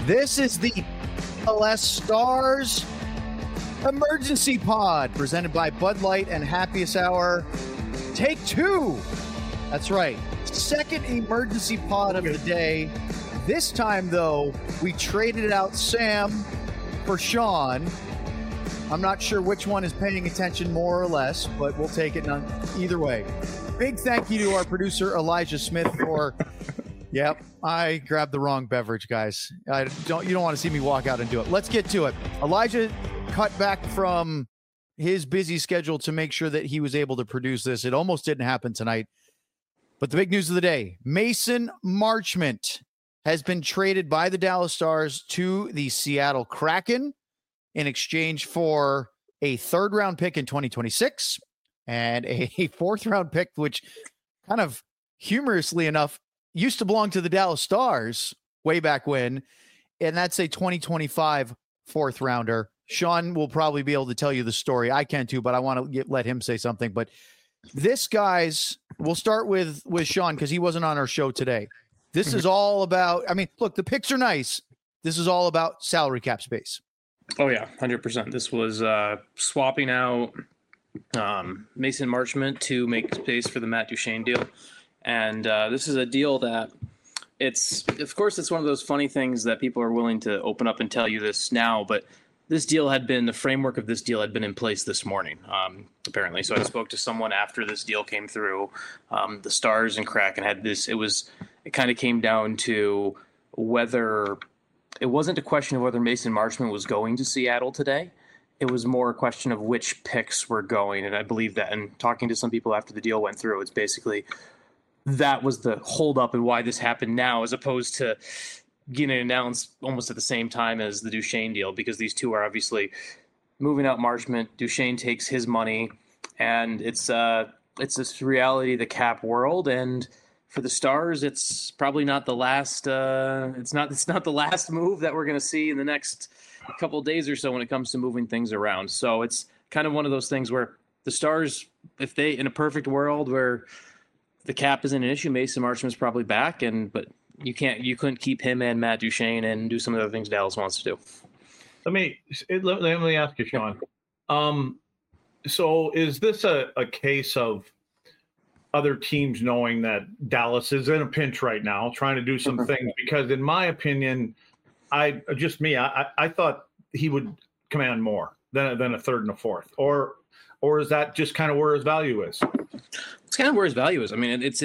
This is the LS Stars Emergency Pod, presented by Bud Light and Happiest Hour. Take two. That's right. Second emergency pod of the day. This time, though, we traded out Sam for Sean. I'm not sure which one is paying attention more or less, but we'll take it either way. Big thank you to our producer, Elijah Smith, for... Yep, I grabbed the wrong beverage, guys. You don't want to see me walk out and do it. Let's get to it. Elijah cut back from his busy schedule to make sure that he was able to produce this. It almost didn't happen tonight. But the big news of the day, Mason Marchment has been traded by the Dallas Stars to the Seattle Kraken in exchange for a third-round pick in 2026 and a fourth-round pick, which kind of humorously enough used to belong to the Dallas Stars way back when, and that's a 2025 fourth-rounder. Sean will probably be able to tell you the story. I can too, but I want to let him say something. But this, guys, we'll start with Sean because he wasn't on our show today. This is all about, I mean, look, the picks are nice. This is all about salary cap space. Oh, yeah, 100%. This was swapping out Mason Marchment to make space for the Matt Duchene deal. And this is a deal that of course, it's one of those funny things that people are willing to open up and tell you this now, but the framework of this deal had been in place this morning, apparently. So I spoke to someone after this deal came through. The Stars and Kraken had this. It kind of came down to whether it wasn't a question of whether Mason Marchment was going to Seattle today. It was more a question of which picks were going. And I believe that, and talking to some people after the deal went through, it's basically that was the holdup and why this happened now, as opposed to getting announced almost at the same time as the Duchene deal, because these two are obviously moving out Marchment. Duchene takes his money, and it's this reality of the cap world. And for the Stars, it's probably not the last. It's not the last move that we're going to see in the next couple of days or so when it comes to moving things around. So it's kind of one of those things where the Stars, if they, in a perfect world where the cap isn't an issue, Mason Marchment's probably back, but you couldn't keep him and Matt Duchene and do some of the other things Dallas wants to do. Let me ask you, Sean. So is this a case of other teams knowing that Dallas is in a pinch right now, trying to do some things? Because in my opinion, I thought he would command more than a third and a fourth, or is that just kind of where his value is? It's kind of where his value is. I mean, if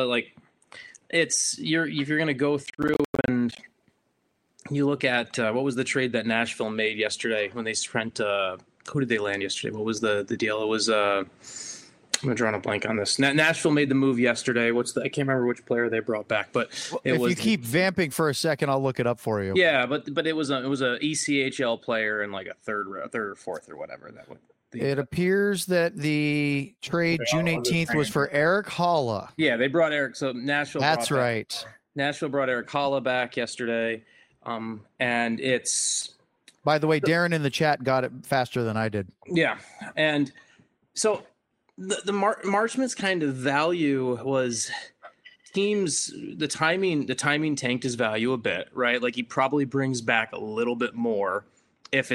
you're going to go through and you look at what was the trade that Nashville made yesterday when they spent who did they land yesterday? What was the deal? It was I'm drawing a blank on this. Nashville made the move yesterday. I can't remember which player they brought back, but if you keep vamping for a second, I'll look it up for you. Yeah, but it was a ECHL player and like a third or fourth or whatever that would. It appears that the trade June 18th was for Eric Haula. Yeah, they brought Eric. So Nashville. That's right. Nashville brought Eric Haula back yesterday, and it's. By the way, Darren in the chat got it faster than I did. Yeah, and so the Marchment's kind of value was teams. The timing tanked his value a bit, right? Like he probably brings back a little bit more. If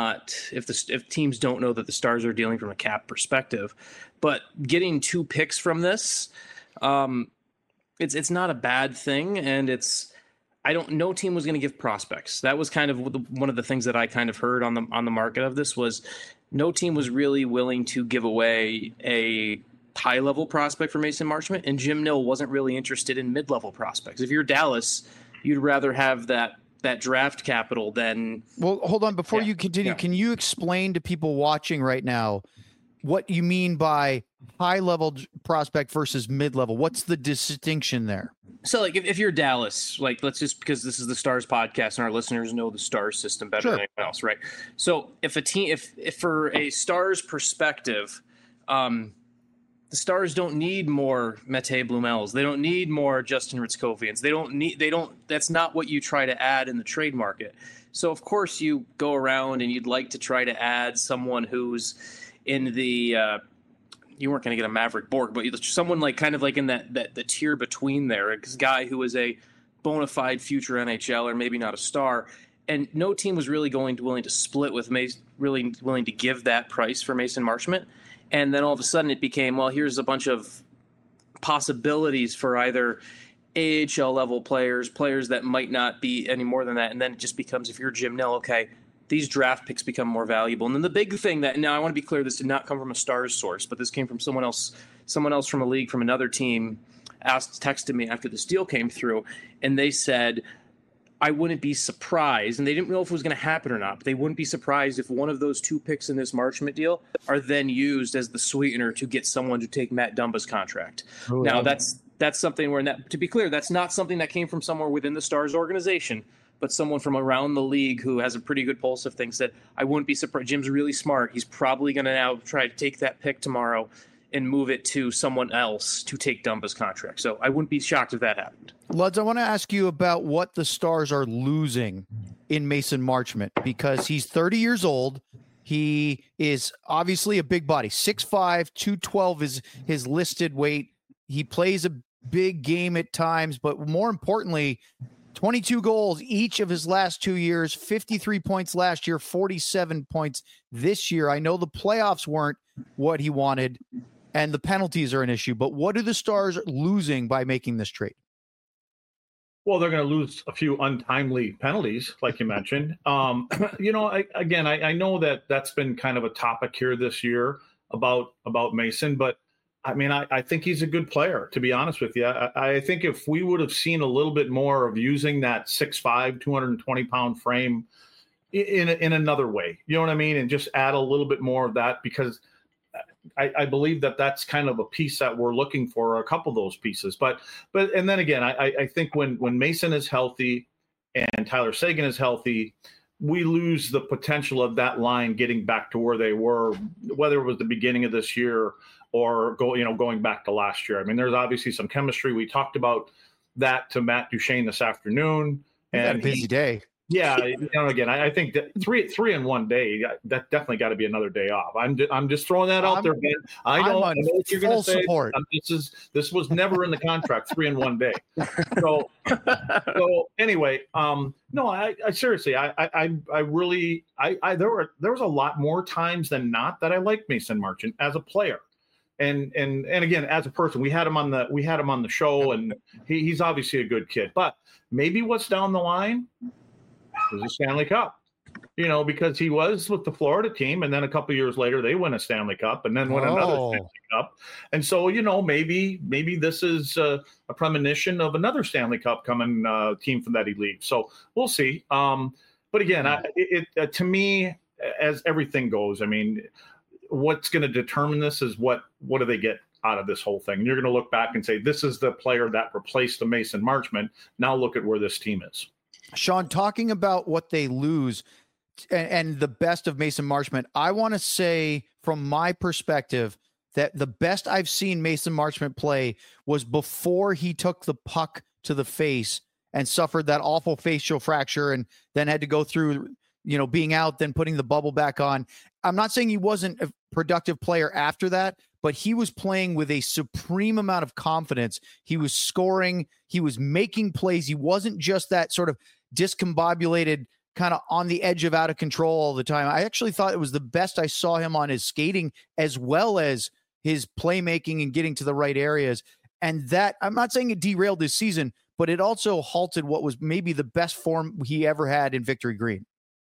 teams don't know that the Stars are dealing from a cap perspective, but getting two picks from this, it's not a bad thing, and no team was going to give prospects. That was kind of one of the things that I kind of heard on the market of this was no team was really willing to give away a high level prospect for Mason Marchment, and Jim Nill wasn't really interested in mid level prospects. If you're Dallas, you'd rather have that draft capital than. Well, hold on. Before you continue, can you explain to people watching right now what you mean by high level prospect versus mid level? What's the distinction there? So like if you're Dallas, like let's just, because this is the Stars podcast and our listeners know the Stars system better than anyone else, right? So if a team, if for a Stars perspective, the Stars don't need more Mete Blumels. They don't need more Justin Ritzkovians. That's not what you try to add in the trade market. So of course you go around and you'd like to try to add someone who's in the, you weren't going to get a Maverick Borg, but someone like kind of like in that the tier between there, a guy who is a bona fide future NHL or maybe not a star. And no team was really willing to split with Mason, really willing to give that price for Mason Marchment. And then all of a sudden it became, well, here's a bunch of possibilities for either AHL level players that might not be any more than that. And then it just becomes, if you're Jim Nill, okay, these draft picks become more valuable. And then the big thing that, now I want to be clear, this did not come from a Stars source, but this came from someone else from a league, from another team, texted me after this deal came through, and they said, I wouldn't be surprised, and they didn't know if it was going to happen or not, but they wouldn't be surprised if one of those 2 picks in this Marchment deal are then used as the sweetener to get someone to take Matt Dumba's contract. Oh, now, that's something where, to be clear, that's not something that came from somewhere within the Stars organization, but someone from around the league who has a pretty good pulse of things, that I wouldn't be surprised. Jim's really smart. He's probably going to now try to take that pick tomorrow and move it to someone else to take Dumba's contract. So I wouldn't be shocked if that happened. Luds, I want to ask you about what the Stars are losing in Mason Marchment, because he's 30 years old. He is obviously a big body. 6'5", 212 is his listed weight. He plays a big game at times, but more importantly, 22 goals each of his last 2 years, 53 points last year, 47 points this year. I know the playoffs weren't what he wanted, and the penalties are an issue, but what are the Stars losing by making this trade? Well, they're going to lose a few untimely penalties, like you mentioned. I know that that's been kind of a topic here this year about Mason, but I mean, I think he's a good player, to be honest with you. I think if we would have seen a little bit more of using that 6'5", 220-pound frame in another way, you know what I mean, and just add a little bit more of that, because I believe that that's kind of a piece that we're looking for, a couple of those pieces. But and then again, I think when Mason is healthy and Tyler Seguin is healthy, we lose the potential of that line getting back to where they were, whether it was the beginning of this year or going back to last year. I mean, there's obviously some chemistry. We talked about that to Matt Duchene this afternoon. And busy day. Yeah, again, I think that three in one day, that definitely got to be another day off. I'm just throwing that out there, Ben. I know what you're going to say. This was never in the contract, 3 in 1 day. So anyway, no, I seriously, I really, there was a lot more times than not that I liked Mason Marchment as a player. And again, as a person, we had him on the show, and he's obviously a good kid. But maybe what's down the line is a Stanley Cup, because he was with the Florida team, and then a couple of years later they win a Stanley Cup, and then win another Stanley Cup. And so, maybe this is a premonition of another Stanley Cup coming team from that he leaves. So we'll see. But again, to me, as everything goes, I mean, what's going to determine this is what do they get out of this whole thing? And you're going to look back and say, this is the player that replaced the Mason Marchment. Now look at where this team is. Sean, talking about what they lose and the best of Mason Marchment, I want to say from my perspective that the best I've seen Mason Marchment play was before he took the puck to the face and suffered that awful facial fracture and then had to go through, being out, then putting the bubble back on. I'm not saying he wasn't a productive player after that, but he was playing with a supreme amount of confidence. He was scoring. He was making plays. He wasn't just that sort of discombobulated, kind of on the edge of out of control all the time. I actually thought it was the best I saw him on his skating as well as his playmaking and getting to the right areas. And that, I'm not saying it derailed his season, but it also halted what was maybe the best form he ever had in Victory Green.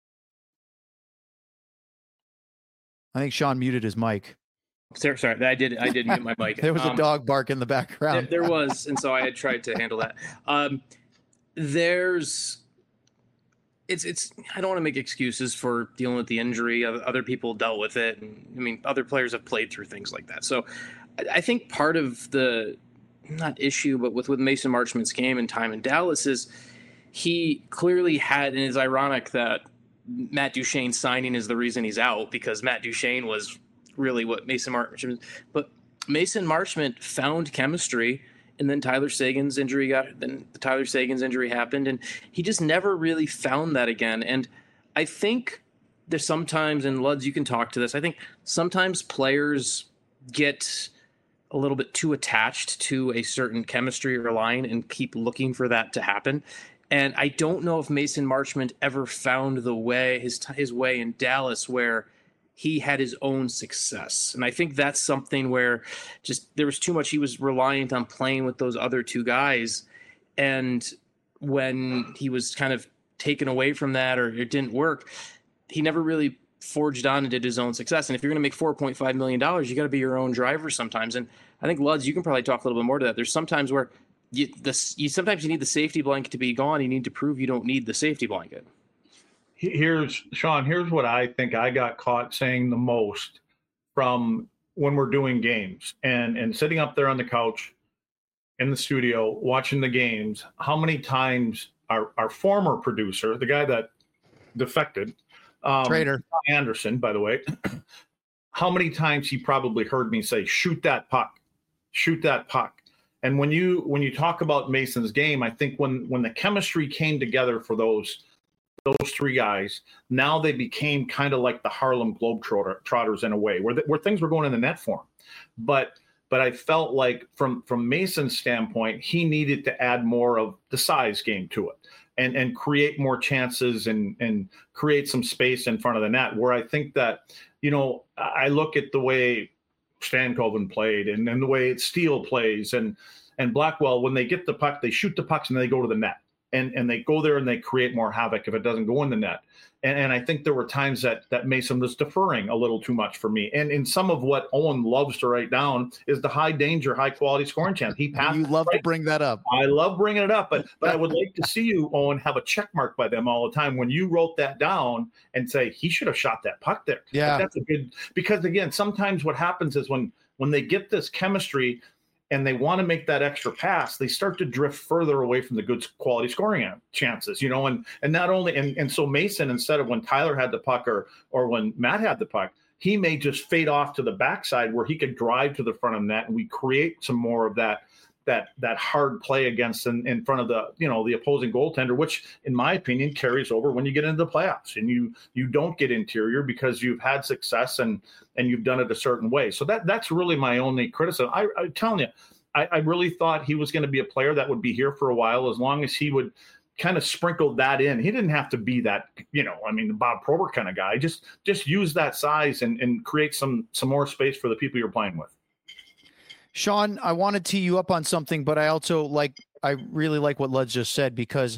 I think Sean muted his mic. Sorry, I did mute my mic. There was a dog bark in the background. There was, and so I had tried to handle that. It's I don't want to make excuses for dealing with the injury. Other people dealt with it, and I mean, other players have played through things like that. So I think part of the not issue, but with Mason Marchment's game and time in Dallas is he clearly had, and it's ironic that Matt Duchene signing is the reason he's out, because Matt Duchene was really what Mason Marchment, but Mason Marchment found chemistry, and then Tyler Seguin's injury happened, and he just never really found that again. And I think there's sometimes, and Luds, you can talk to this, I think sometimes players get a little bit too attached to a certain chemistry or line and keep looking for that to happen. And I don't know if Mason Marchment ever found the way, his way in Dallas where he had his own success. And I think that's something where just there was too much. He was reliant on playing with those other two guys. And when he was kind of taken away from that, or it didn't work, he never really forged on and did his own success. And if you're going to make $4.5 million, you got to be your own driver sometimes. And I think, Luds, you can probably talk a little bit more to that. There's sometimes where sometimes you need the safety blanket to be gone. You need to prove you don't need the safety blanket. Here's what I think I got caught saying the most from when we're doing games and sitting up there on the couch in the studio watching the games. How many times our former producer, the guy that defected, Trader Anderson, by the way, how many times he probably heard me say, shoot that puck. And when you talk about Mason's game, I think when the chemistry came together for those three guys, now they became kind of like the Harlem Globetrotters in a way, where things were going in the net for him. But I felt like from Mason's standpoint, he needed to add more of the size game to it and create more chances and create some space in front of the net, where I think that, I look at the way Stankoven played and the way Steele plays and Blackwell, when they get the puck, they shoot the pucks and they go to the net. And they go there and they create more havoc if it doesn't go in the net. And I think there were times that Mason was deferring a little too much for me. And in some of what Owen loves to write down is the high danger, high quality scoring chance. He passed. You love to bring that up. I love bringing it up, but I would like to see you, Owen, have a check mark by them all the time when you wrote that down and say he should have shot that puck there. Yeah, that's a good, because again, sometimes what happens is when they get this chemistry and they want to make that extra pass, they start to drift further away from the good quality scoring chances, and not only, and so Mason, instead of when Tyler had the puck or when Matt had the puck, he may just fade off to the backside where he could drive to the front of the net, and we create some more of that hard play against in front of the opposing goaltender, which in my opinion carries over when you get into the playoffs and you don't get interior because you've had success and you've done it a certain way. So that's really my only criticism. I'm telling you, I really thought he was going to be a player that would be here for a while, as long as he would kind of sprinkle that in. He didn't have to be that, the Bob Probert kind of guy. Just use that size and create some more space for the people you're playing with. Sean, I want to tee you up on something, but I really like what Lud just said, because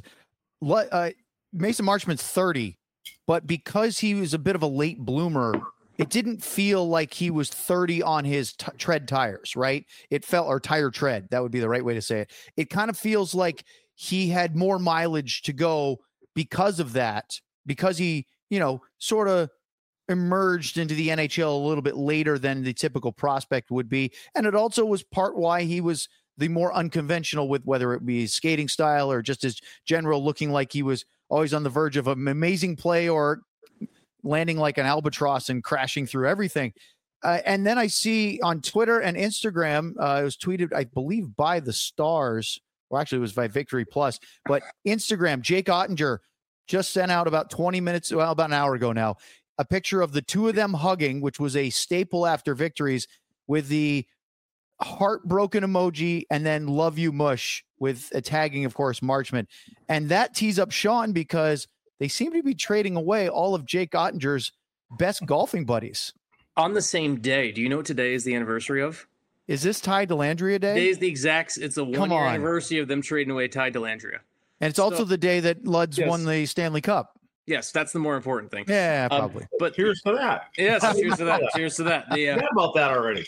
Mason Marchment's 30, but because he was a bit of a late bloomer, it didn't feel like he was 30 on his tread tires, right? It felt, or tire tread, that would be the right way to say it. It kind of feels like he had more mileage to go because of that, because he, sort of emerged into the NHL a little bit later than the typical prospect would be. And it also was part why he was the more unconventional, with whether it be his skating style or just his general looking like he was always on the verge of an amazing play or landing like an albatross and crashing through everything. And then I see on Twitter and Instagram, it was tweeted, I believe, by the Stars, or actually it was by Victory Plus, but Instagram, Jake Ottinger just sent out about an hour ago now, a picture of the two of them hugging, which was a staple after victories, with the heartbroken emoji and then love you mush with a tagging, of course, Marchment. And that tees up Sean, because they seem to be trading away all of Jake Ottinger's best golfing buddies. On the same day. Do you know what today is the anniversary of? Is this Ty Dellandrea Day? Today is the exact, it's a 1 year anniversary of them trading away Ty Dellandrea. And it's also the day that Luds won the Stanley Cup. Yes, that's the more important thing. Yeah, probably. But here's to that. Yes, cheers to that. Cheers to that. Forget about that already.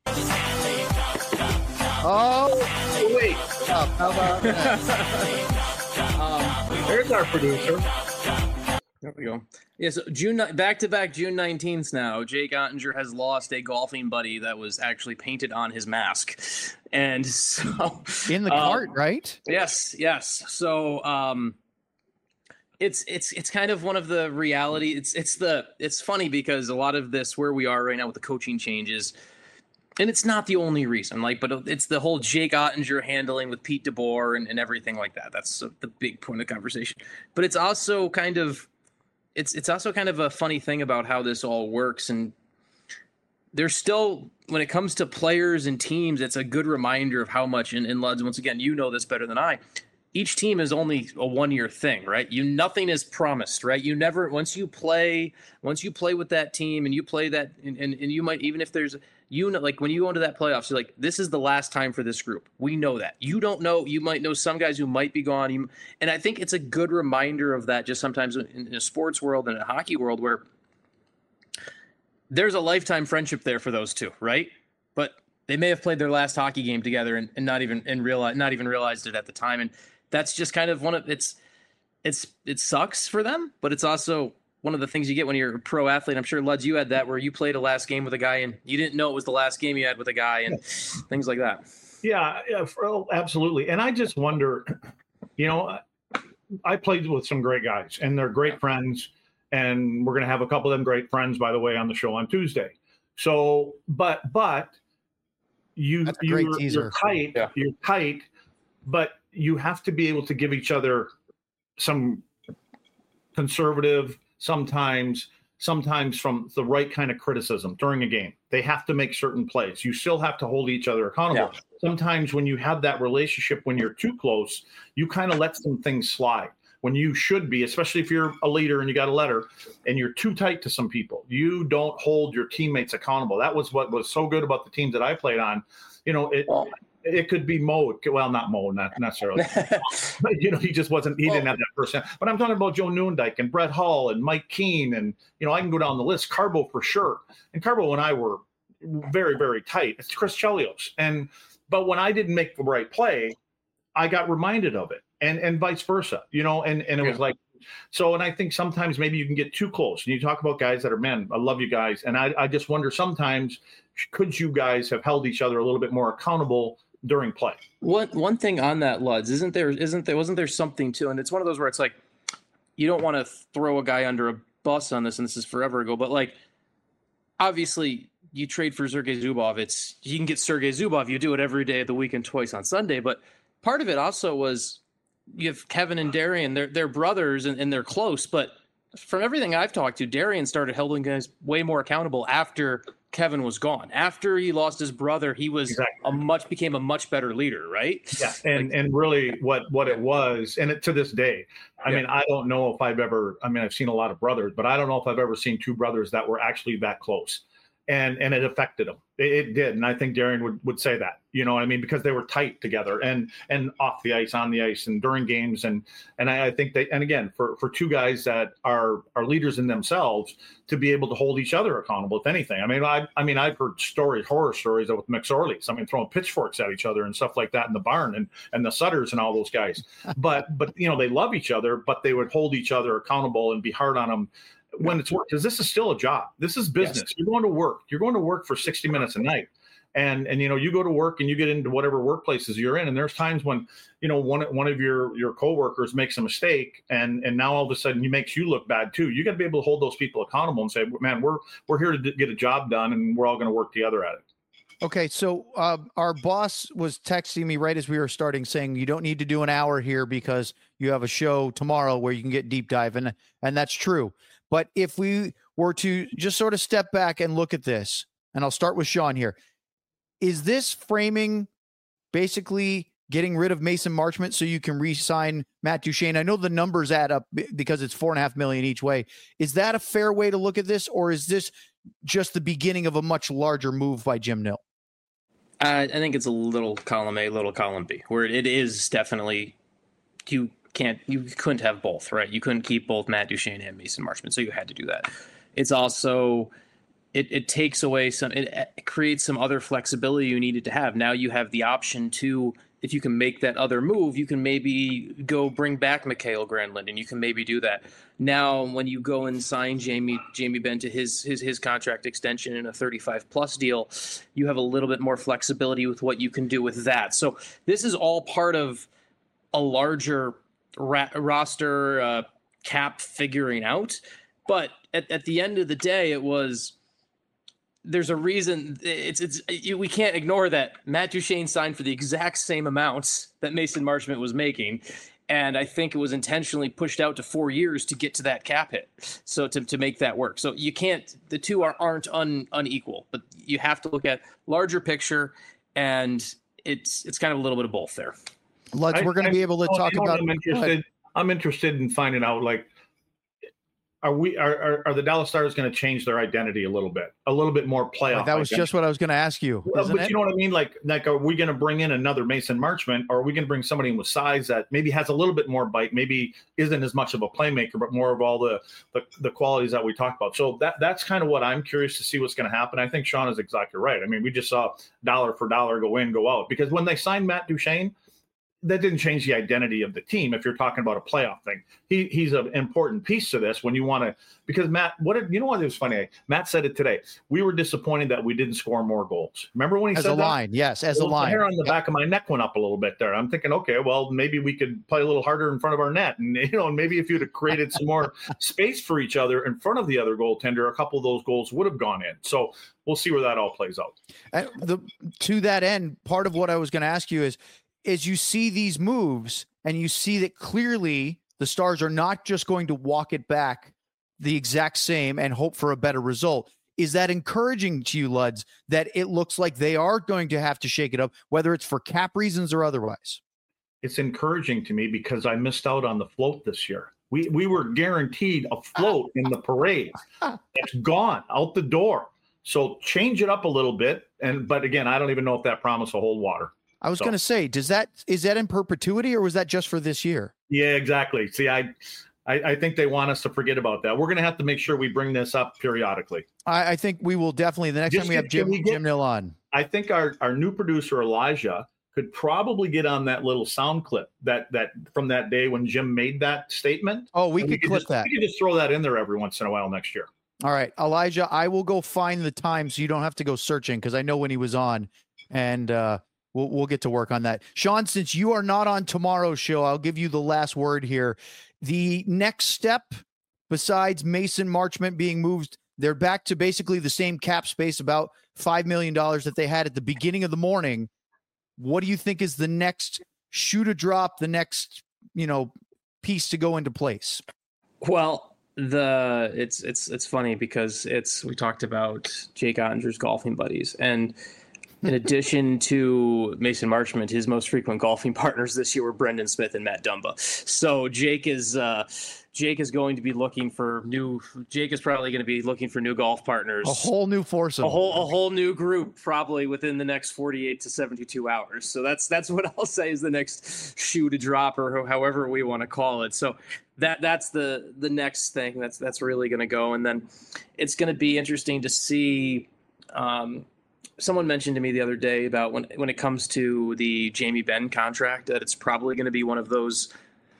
Oh, wait. How about that? There's our producer. There we go. Yeah, so back-to-back June 19th now, Jake Ottinger has lost a golfing buddy that was actually painted on his mask. And so... in the cart, right? Yes. So... It's kind of one of the reality. It's funny because a lot of this, where we are right now with the coaching changes, and it's not the only reason, but it's the whole Jake Ottinger handling with Pete DeBoer and everything like that. That's the big point of the conversation. But it's also kind of a funny thing about how this all works. And there's still, when it comes to players and teams, it's a good reminder of how much, and Luds, once again, you know this better than I, each team is only a 1-year thing, right? Nothing is promised, right? You never, once you play with that team and you play that, and you might, even if there's, like when you go into that playoffs, you're like, this is the last time for this group. We know that. You don't know, you might know some guys who might be gone. And I think it's a good reminder of that just sometimes in a sports world and a hockey world where there's a lifetime friendship there for those two, right? But they may have played their last hockey game together and not even realized it at the time. And that's just kind of it sucks for them, but it's also one of the things you get when you're a pro athlete. I'm sure, Luds, you had that where you played a last game with a guy and you didn't know it was the last game you had with a guy and things like that. Yeah, absolutely. And I just wonder, I played with some great guys and they're great friends. And we're going to have a couple of them great friends, by the way, on the show on Tuesday. So, but you're tight, yeah. You're tight, but you have to be able to give each other some conservative, sometimes from the right kind of criticism during a game. They have to make certain plays. You still have to hold each other accountable. Yeah. Sometimes when you have that relationship, when you're too close, you kind of let some things slide. When you should be, especially if you're a leader and you got a letter and you're too tight to some people, you don't hold your teammates accountable. That was what was so good about the teams that I played on. It could be Mo. Well, not Mo, not necessarily. But, he just wasn't. He didn't have that person. But I'm talking about Joe Newendike and Brett Hull and Mike Keane, and I can go down the list. Carbo for sure. And Carbo and I were very, very tight. It's Chris Chelios. But when I didn't make the right play, I got reminded of it. And vice versa, and it was like, so, and I think sometimes maybe you can get too close and you talk about guys that are, man, I love you guys. And I just wonder sometimes, could you guys have held each other a little bit more accountable during play? One thing on that, Luds, wasn't there something too? And it's one of those where it's like, you don't want to throw a guy under a bus on this, and this is forever ago, but like, obviously you trade for Sergei Zubov. You can get Sergei Zubov. You do it every day of the week and twice on Sunday. But part of it also was, you have Kevin and Darian, they're brothers and they're close, but from everything I've talked to, Darian started holding guys way more accountable after Kevin was gone. After he lost his brother, he was became a much better leader, right? Yeah, and really what it was, and to this day, I mean, I don't know if I've seen a lot of brothers, but I don't know if I've ever seen two brothers that were actually that close. And it affected them. It did. And I think Darian would say that, because they were tight together and off the ice, on the ice, and during games. And I think and again, for two guys that are leaders in themselves, to be able to hold each other accountable, if anything. I've heard horror stories with McSorleys, throwing pitchforks at each other and stuff like that in the barn, and the Sutters and all those guys. But they love each other, but they would hold each other accountable and be hard on them when it's work, because this is still a job. This is business. Yes. You're going to work for 60 minutes a night. And you go to work and you get into whatever workplaces you're in. And there's times when, one of your coworkers makes a mistake and now all of a sudden he makes you look bad too. You got to be able to hold those people accountable and say, man, we're here to get a job done and we're all going to work together at it. Okay. So our boss was texting me right as we were starting saying, you don't need to do an hour here because you have a show tomorrow where you can get deep dive. And that's true. But if we were to just sort of step back and look at this, and I'll start with Sean here, is this framing basically getting rid of Mason Marchment so you can re-sign Matt Duchene? I know the numbers add up because it's $4.5 million each way. Is that a fair way to look at this, or is this just the beginning of a much larger move by Jim Nill? I think it's a little column A, little column B, where it is definitely you couldn't have both, right? You couldn't keep both Matt Duchene and Mason Marchment, so you had to do that. It's also it takes away it creates some other flexibility you needed to have. Now you have the option to, if you can make that other move, you can maybe go bring back Mikael Granlund, and you can maybe do that. Now, when you go and sign Jamie Benn to his contract extension in a 35+ deal, you have a little bit more flexibility with what you can do with that. So this is all part of a larger roster cap figuring out. But at the end of the day, there's a reason. We can't ignore that Matt Duchene signed for the exact same amounts that Mason Marchment was making, And I think it was intentionally pushed out to 4 years to get to that cap hit. So to make that work. So you can't, the two aren't unequal, but you have to look at larger picture, and it's kind of a little bit of both there. Luds, we're going to be able to talk about. I'm interested in finding out, like, are the Dallas Stars going to change their identity a little bit more playoff? That was just what I was going to ask you. But you know what I mean? Like, are we going to bring in another Mason Marchment, or are we going to bring somebody in with size that maybe has a little bit more bite, maybe isn't as much of a playmaker, but more of all the qualities that we talked about? So that's kind of what I'm curious to see what's going to happen. I think Sean is exactly right. I mean, we just saw dollar for dollar go in, go out, because when they signed Matt Duchene, that didn't change the identity of the team. If you're talking about a playoff thing, he's an important piece to this when you want to, because Matt, you know what, it was funny. Matt said it today. We were disappointed that we didn't score more goals. Remember when he said that? As a line, yes, as a line. The hair on the back of my neck went up a little bit there. I'm thinking, okay, well, maybe we could play a little harder in front of our net. And, maybe if you'd have created some more space for each other in front of the other goaltender, a couple of those goals would have gone in. So we'll see where that all plays out. To that end, part of what I was going to ask you is you see these moves and you see that clearly the Stars are not just going to walk it back the exact same and hope for a better result. Is that encouraging to you, Luds, that it looks like they are going to have to shake it up, whether it's for cap reasons or otherwise? It's encouraging to me because I missed out on the float this year. We were guaranteed a float in the parade. It's gone out the door. So change it up a little bit. But again, I don't even know if that promise will hold water. I was going to say, is that in perpetuity, or was that just for this year? Yeah, exactly. See, I think they want us to forget about that. We're going to have to make sure we bring this up periodically. I think we will definitely. The next time we have Jim Nill on. I think our new producer, Elijah, could probably get on that little sound clip that from that day when Jim made that statement. Oh, we could clip that. We could just throw that in there every once in a while next year. All right, Elijah, I will go find the time so you don't have to go searching, because I know when he was on, and we'll get to work on that. Sean, since you are not on tomorrow's show, I'll give you the last word here. The next step, besides Mason Marchment being moved, they're back to basically the same cap space, about $5 million that they had at the beginning of the morning. What do you think is the next shoe to drop, the next, piece to go into place? Well, it's funny because we talked about Jake Ottinger's golfing buddies, and in addition to Mason Marchment, his most frequent golfing partners this year were Brendan Smith and Matt Dumba. So Jake is going to be looking for Jake is probably going to be looking for new golf partners. A whole new foursome. A whole new group probably within the next 48 to 72 hours. So that's what I'll say is the next shoe to drop, or however we want to call it. So that's the next thing that's really going to go. And then it's going to be interesting to see. Someone mentioned to me the other day about when it comes to the Jamie Benn contract, that it's probably going to be one of those.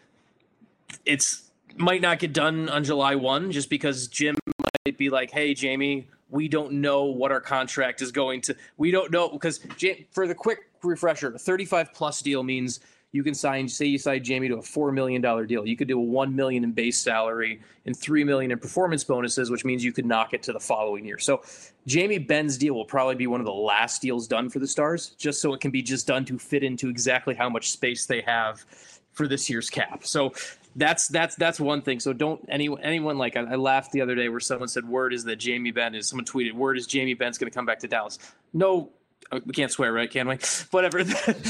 It's might not get done on July 1, just because Jim might be like, "Hey, Jamie, we don't know what our contract is going to. We don't know," because for the quick refresher, a 35+ deal means you can sign Jamie to a $4 million deal. You could do a $1 million in base salary and $3 million in performance bonuses, which means you could knock it to the following year. So Jamie Benn's deal will probably be one of the last deals done for the Stars, just so it can be just done to fit into exactly how much space they have for this year's cap. So that's one thing. So don't anyone like I laughed the other day where someone said someone tweeted word is Jamie Benn's going to come back to Dallas. No, we can't swear, right? Can we? Whatever.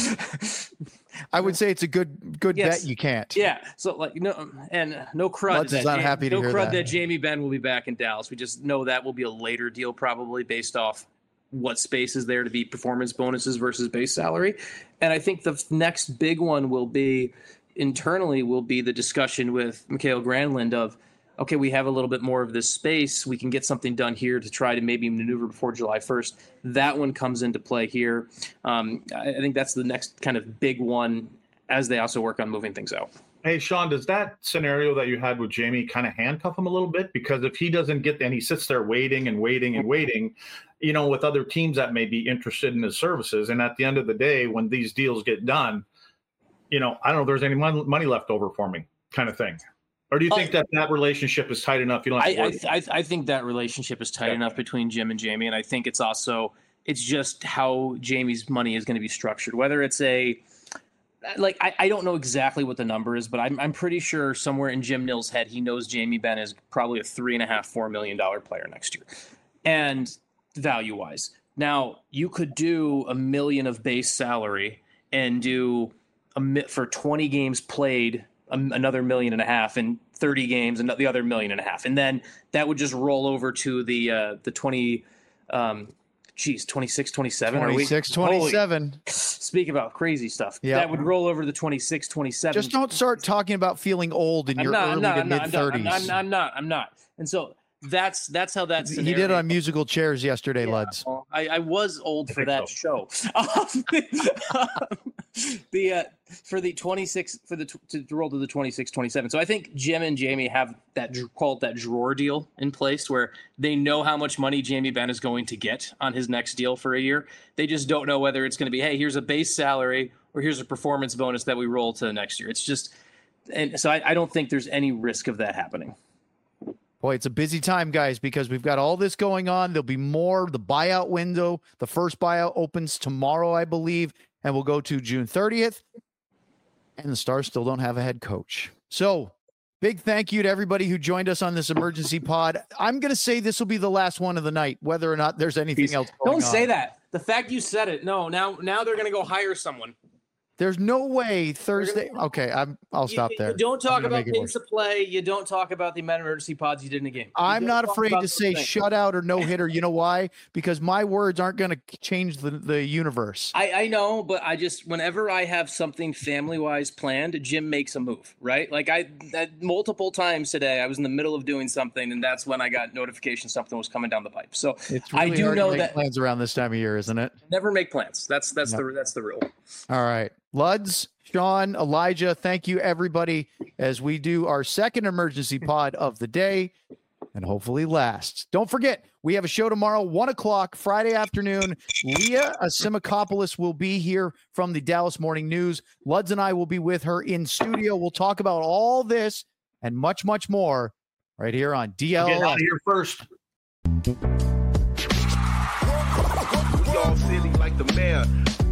I would say it's a good bet. You can't. Yeah. So no crud. That Jamie Benn will be back in Dallas. We just know that will be a later deal, probably based off what space is there to be performance bonuses versus base salary. And I think the next big one will be the discussion with Mikael Granlund of, okay, we have a little bit more of this space. We can get something done here to try to maybe maneuver before July 1st. That one comes into play here. I think that's the next kind of big one as they also work on moving things out. Hey, Sean, does that scenario that you had with Jamie kind of handcuff him a little bit? Because if he doesn't get, and he sits there waiting, with other teams that may be interested in his services. And at the end of the day, when these deals get done, I don't know if there's any money left over for me kind of thing. Or do you think that relationship is tight enough? I think that relationship is tight enough between Jim and Jamie. And I think it's just how Jamie's money is going to be structured, whether it's like I don't know exactly what the number is, but I'm pretty sure somewhere in Jim Nill's head he knows Jamie Benn is probably a $3.5-4 million player next year, and value wise. Now you could do $1 million of base salary and do for 20 games played another $1.5 million, and 30 games and the other $1.5 million, and then that would just roll over to the 20. 26, 27. 26, 27. Speak about crazy stuff. Yep. That would roll over to the 26, 27. Just don't start talking about feeling old in your early to mid 30s. I'm not. And so that's how that scenario. He did on musical chairs yesterday, Luds. Well, I was old for that show. For the 26 to roll to the 26, 27. So I think Jim and Jamie have that drawer deal in place where they know how much money Jamie Benn is going to get on his next deal for a year. They just don't know whether it's going to be, hey, here's a base salary or here's a performance bonus that we roll to next year. It's just, and so I don't think there's any risk of that happening. Boy, it's a busy time, guys, because we've got all this going on. There'll be more. The buyout window, the first buyout opens tomorrow, I believe, and we'll go to June 30th. And the Stars still don't have a head coach. So big thank you to everybody who joined us on this emergency pod. I'm going to say this will be the last one of the night, whether or not there's anything else going on. Don't say that. The fact you said it. No, now they're going to go hire someone. There's no way Thursday. Okay, I'll stop there. You don't talk about pace of play. You don't talk about the amount of emergency pods you did in a game. I'm not afraid to say shutout or no hitter. You know why? Because my words aren't going to change the universe. I know, but whenever I have something family wise planned, Jim makes a move, right? Like I multiple times today, I was in the middle of doing something, and that's when I got notification something was coming down the pipe. So it's really I do hard know to make that plans around this time of year, isn't it? Never make plans. That's the rule. All right. Luds, Sean, Elijah, thank you, everybody, as we do our second emergency pod of the day and hopefully last. Don't forget, we have a show tomorrow, 1 o'clock, Friday afternoon. Leah Asimakopoulos will be here from the Dallas Morning News. Luds and I will be with her in studio. We'll talk about all this and much, much more right here on DL. Get out of here first. We all silly like the mayor.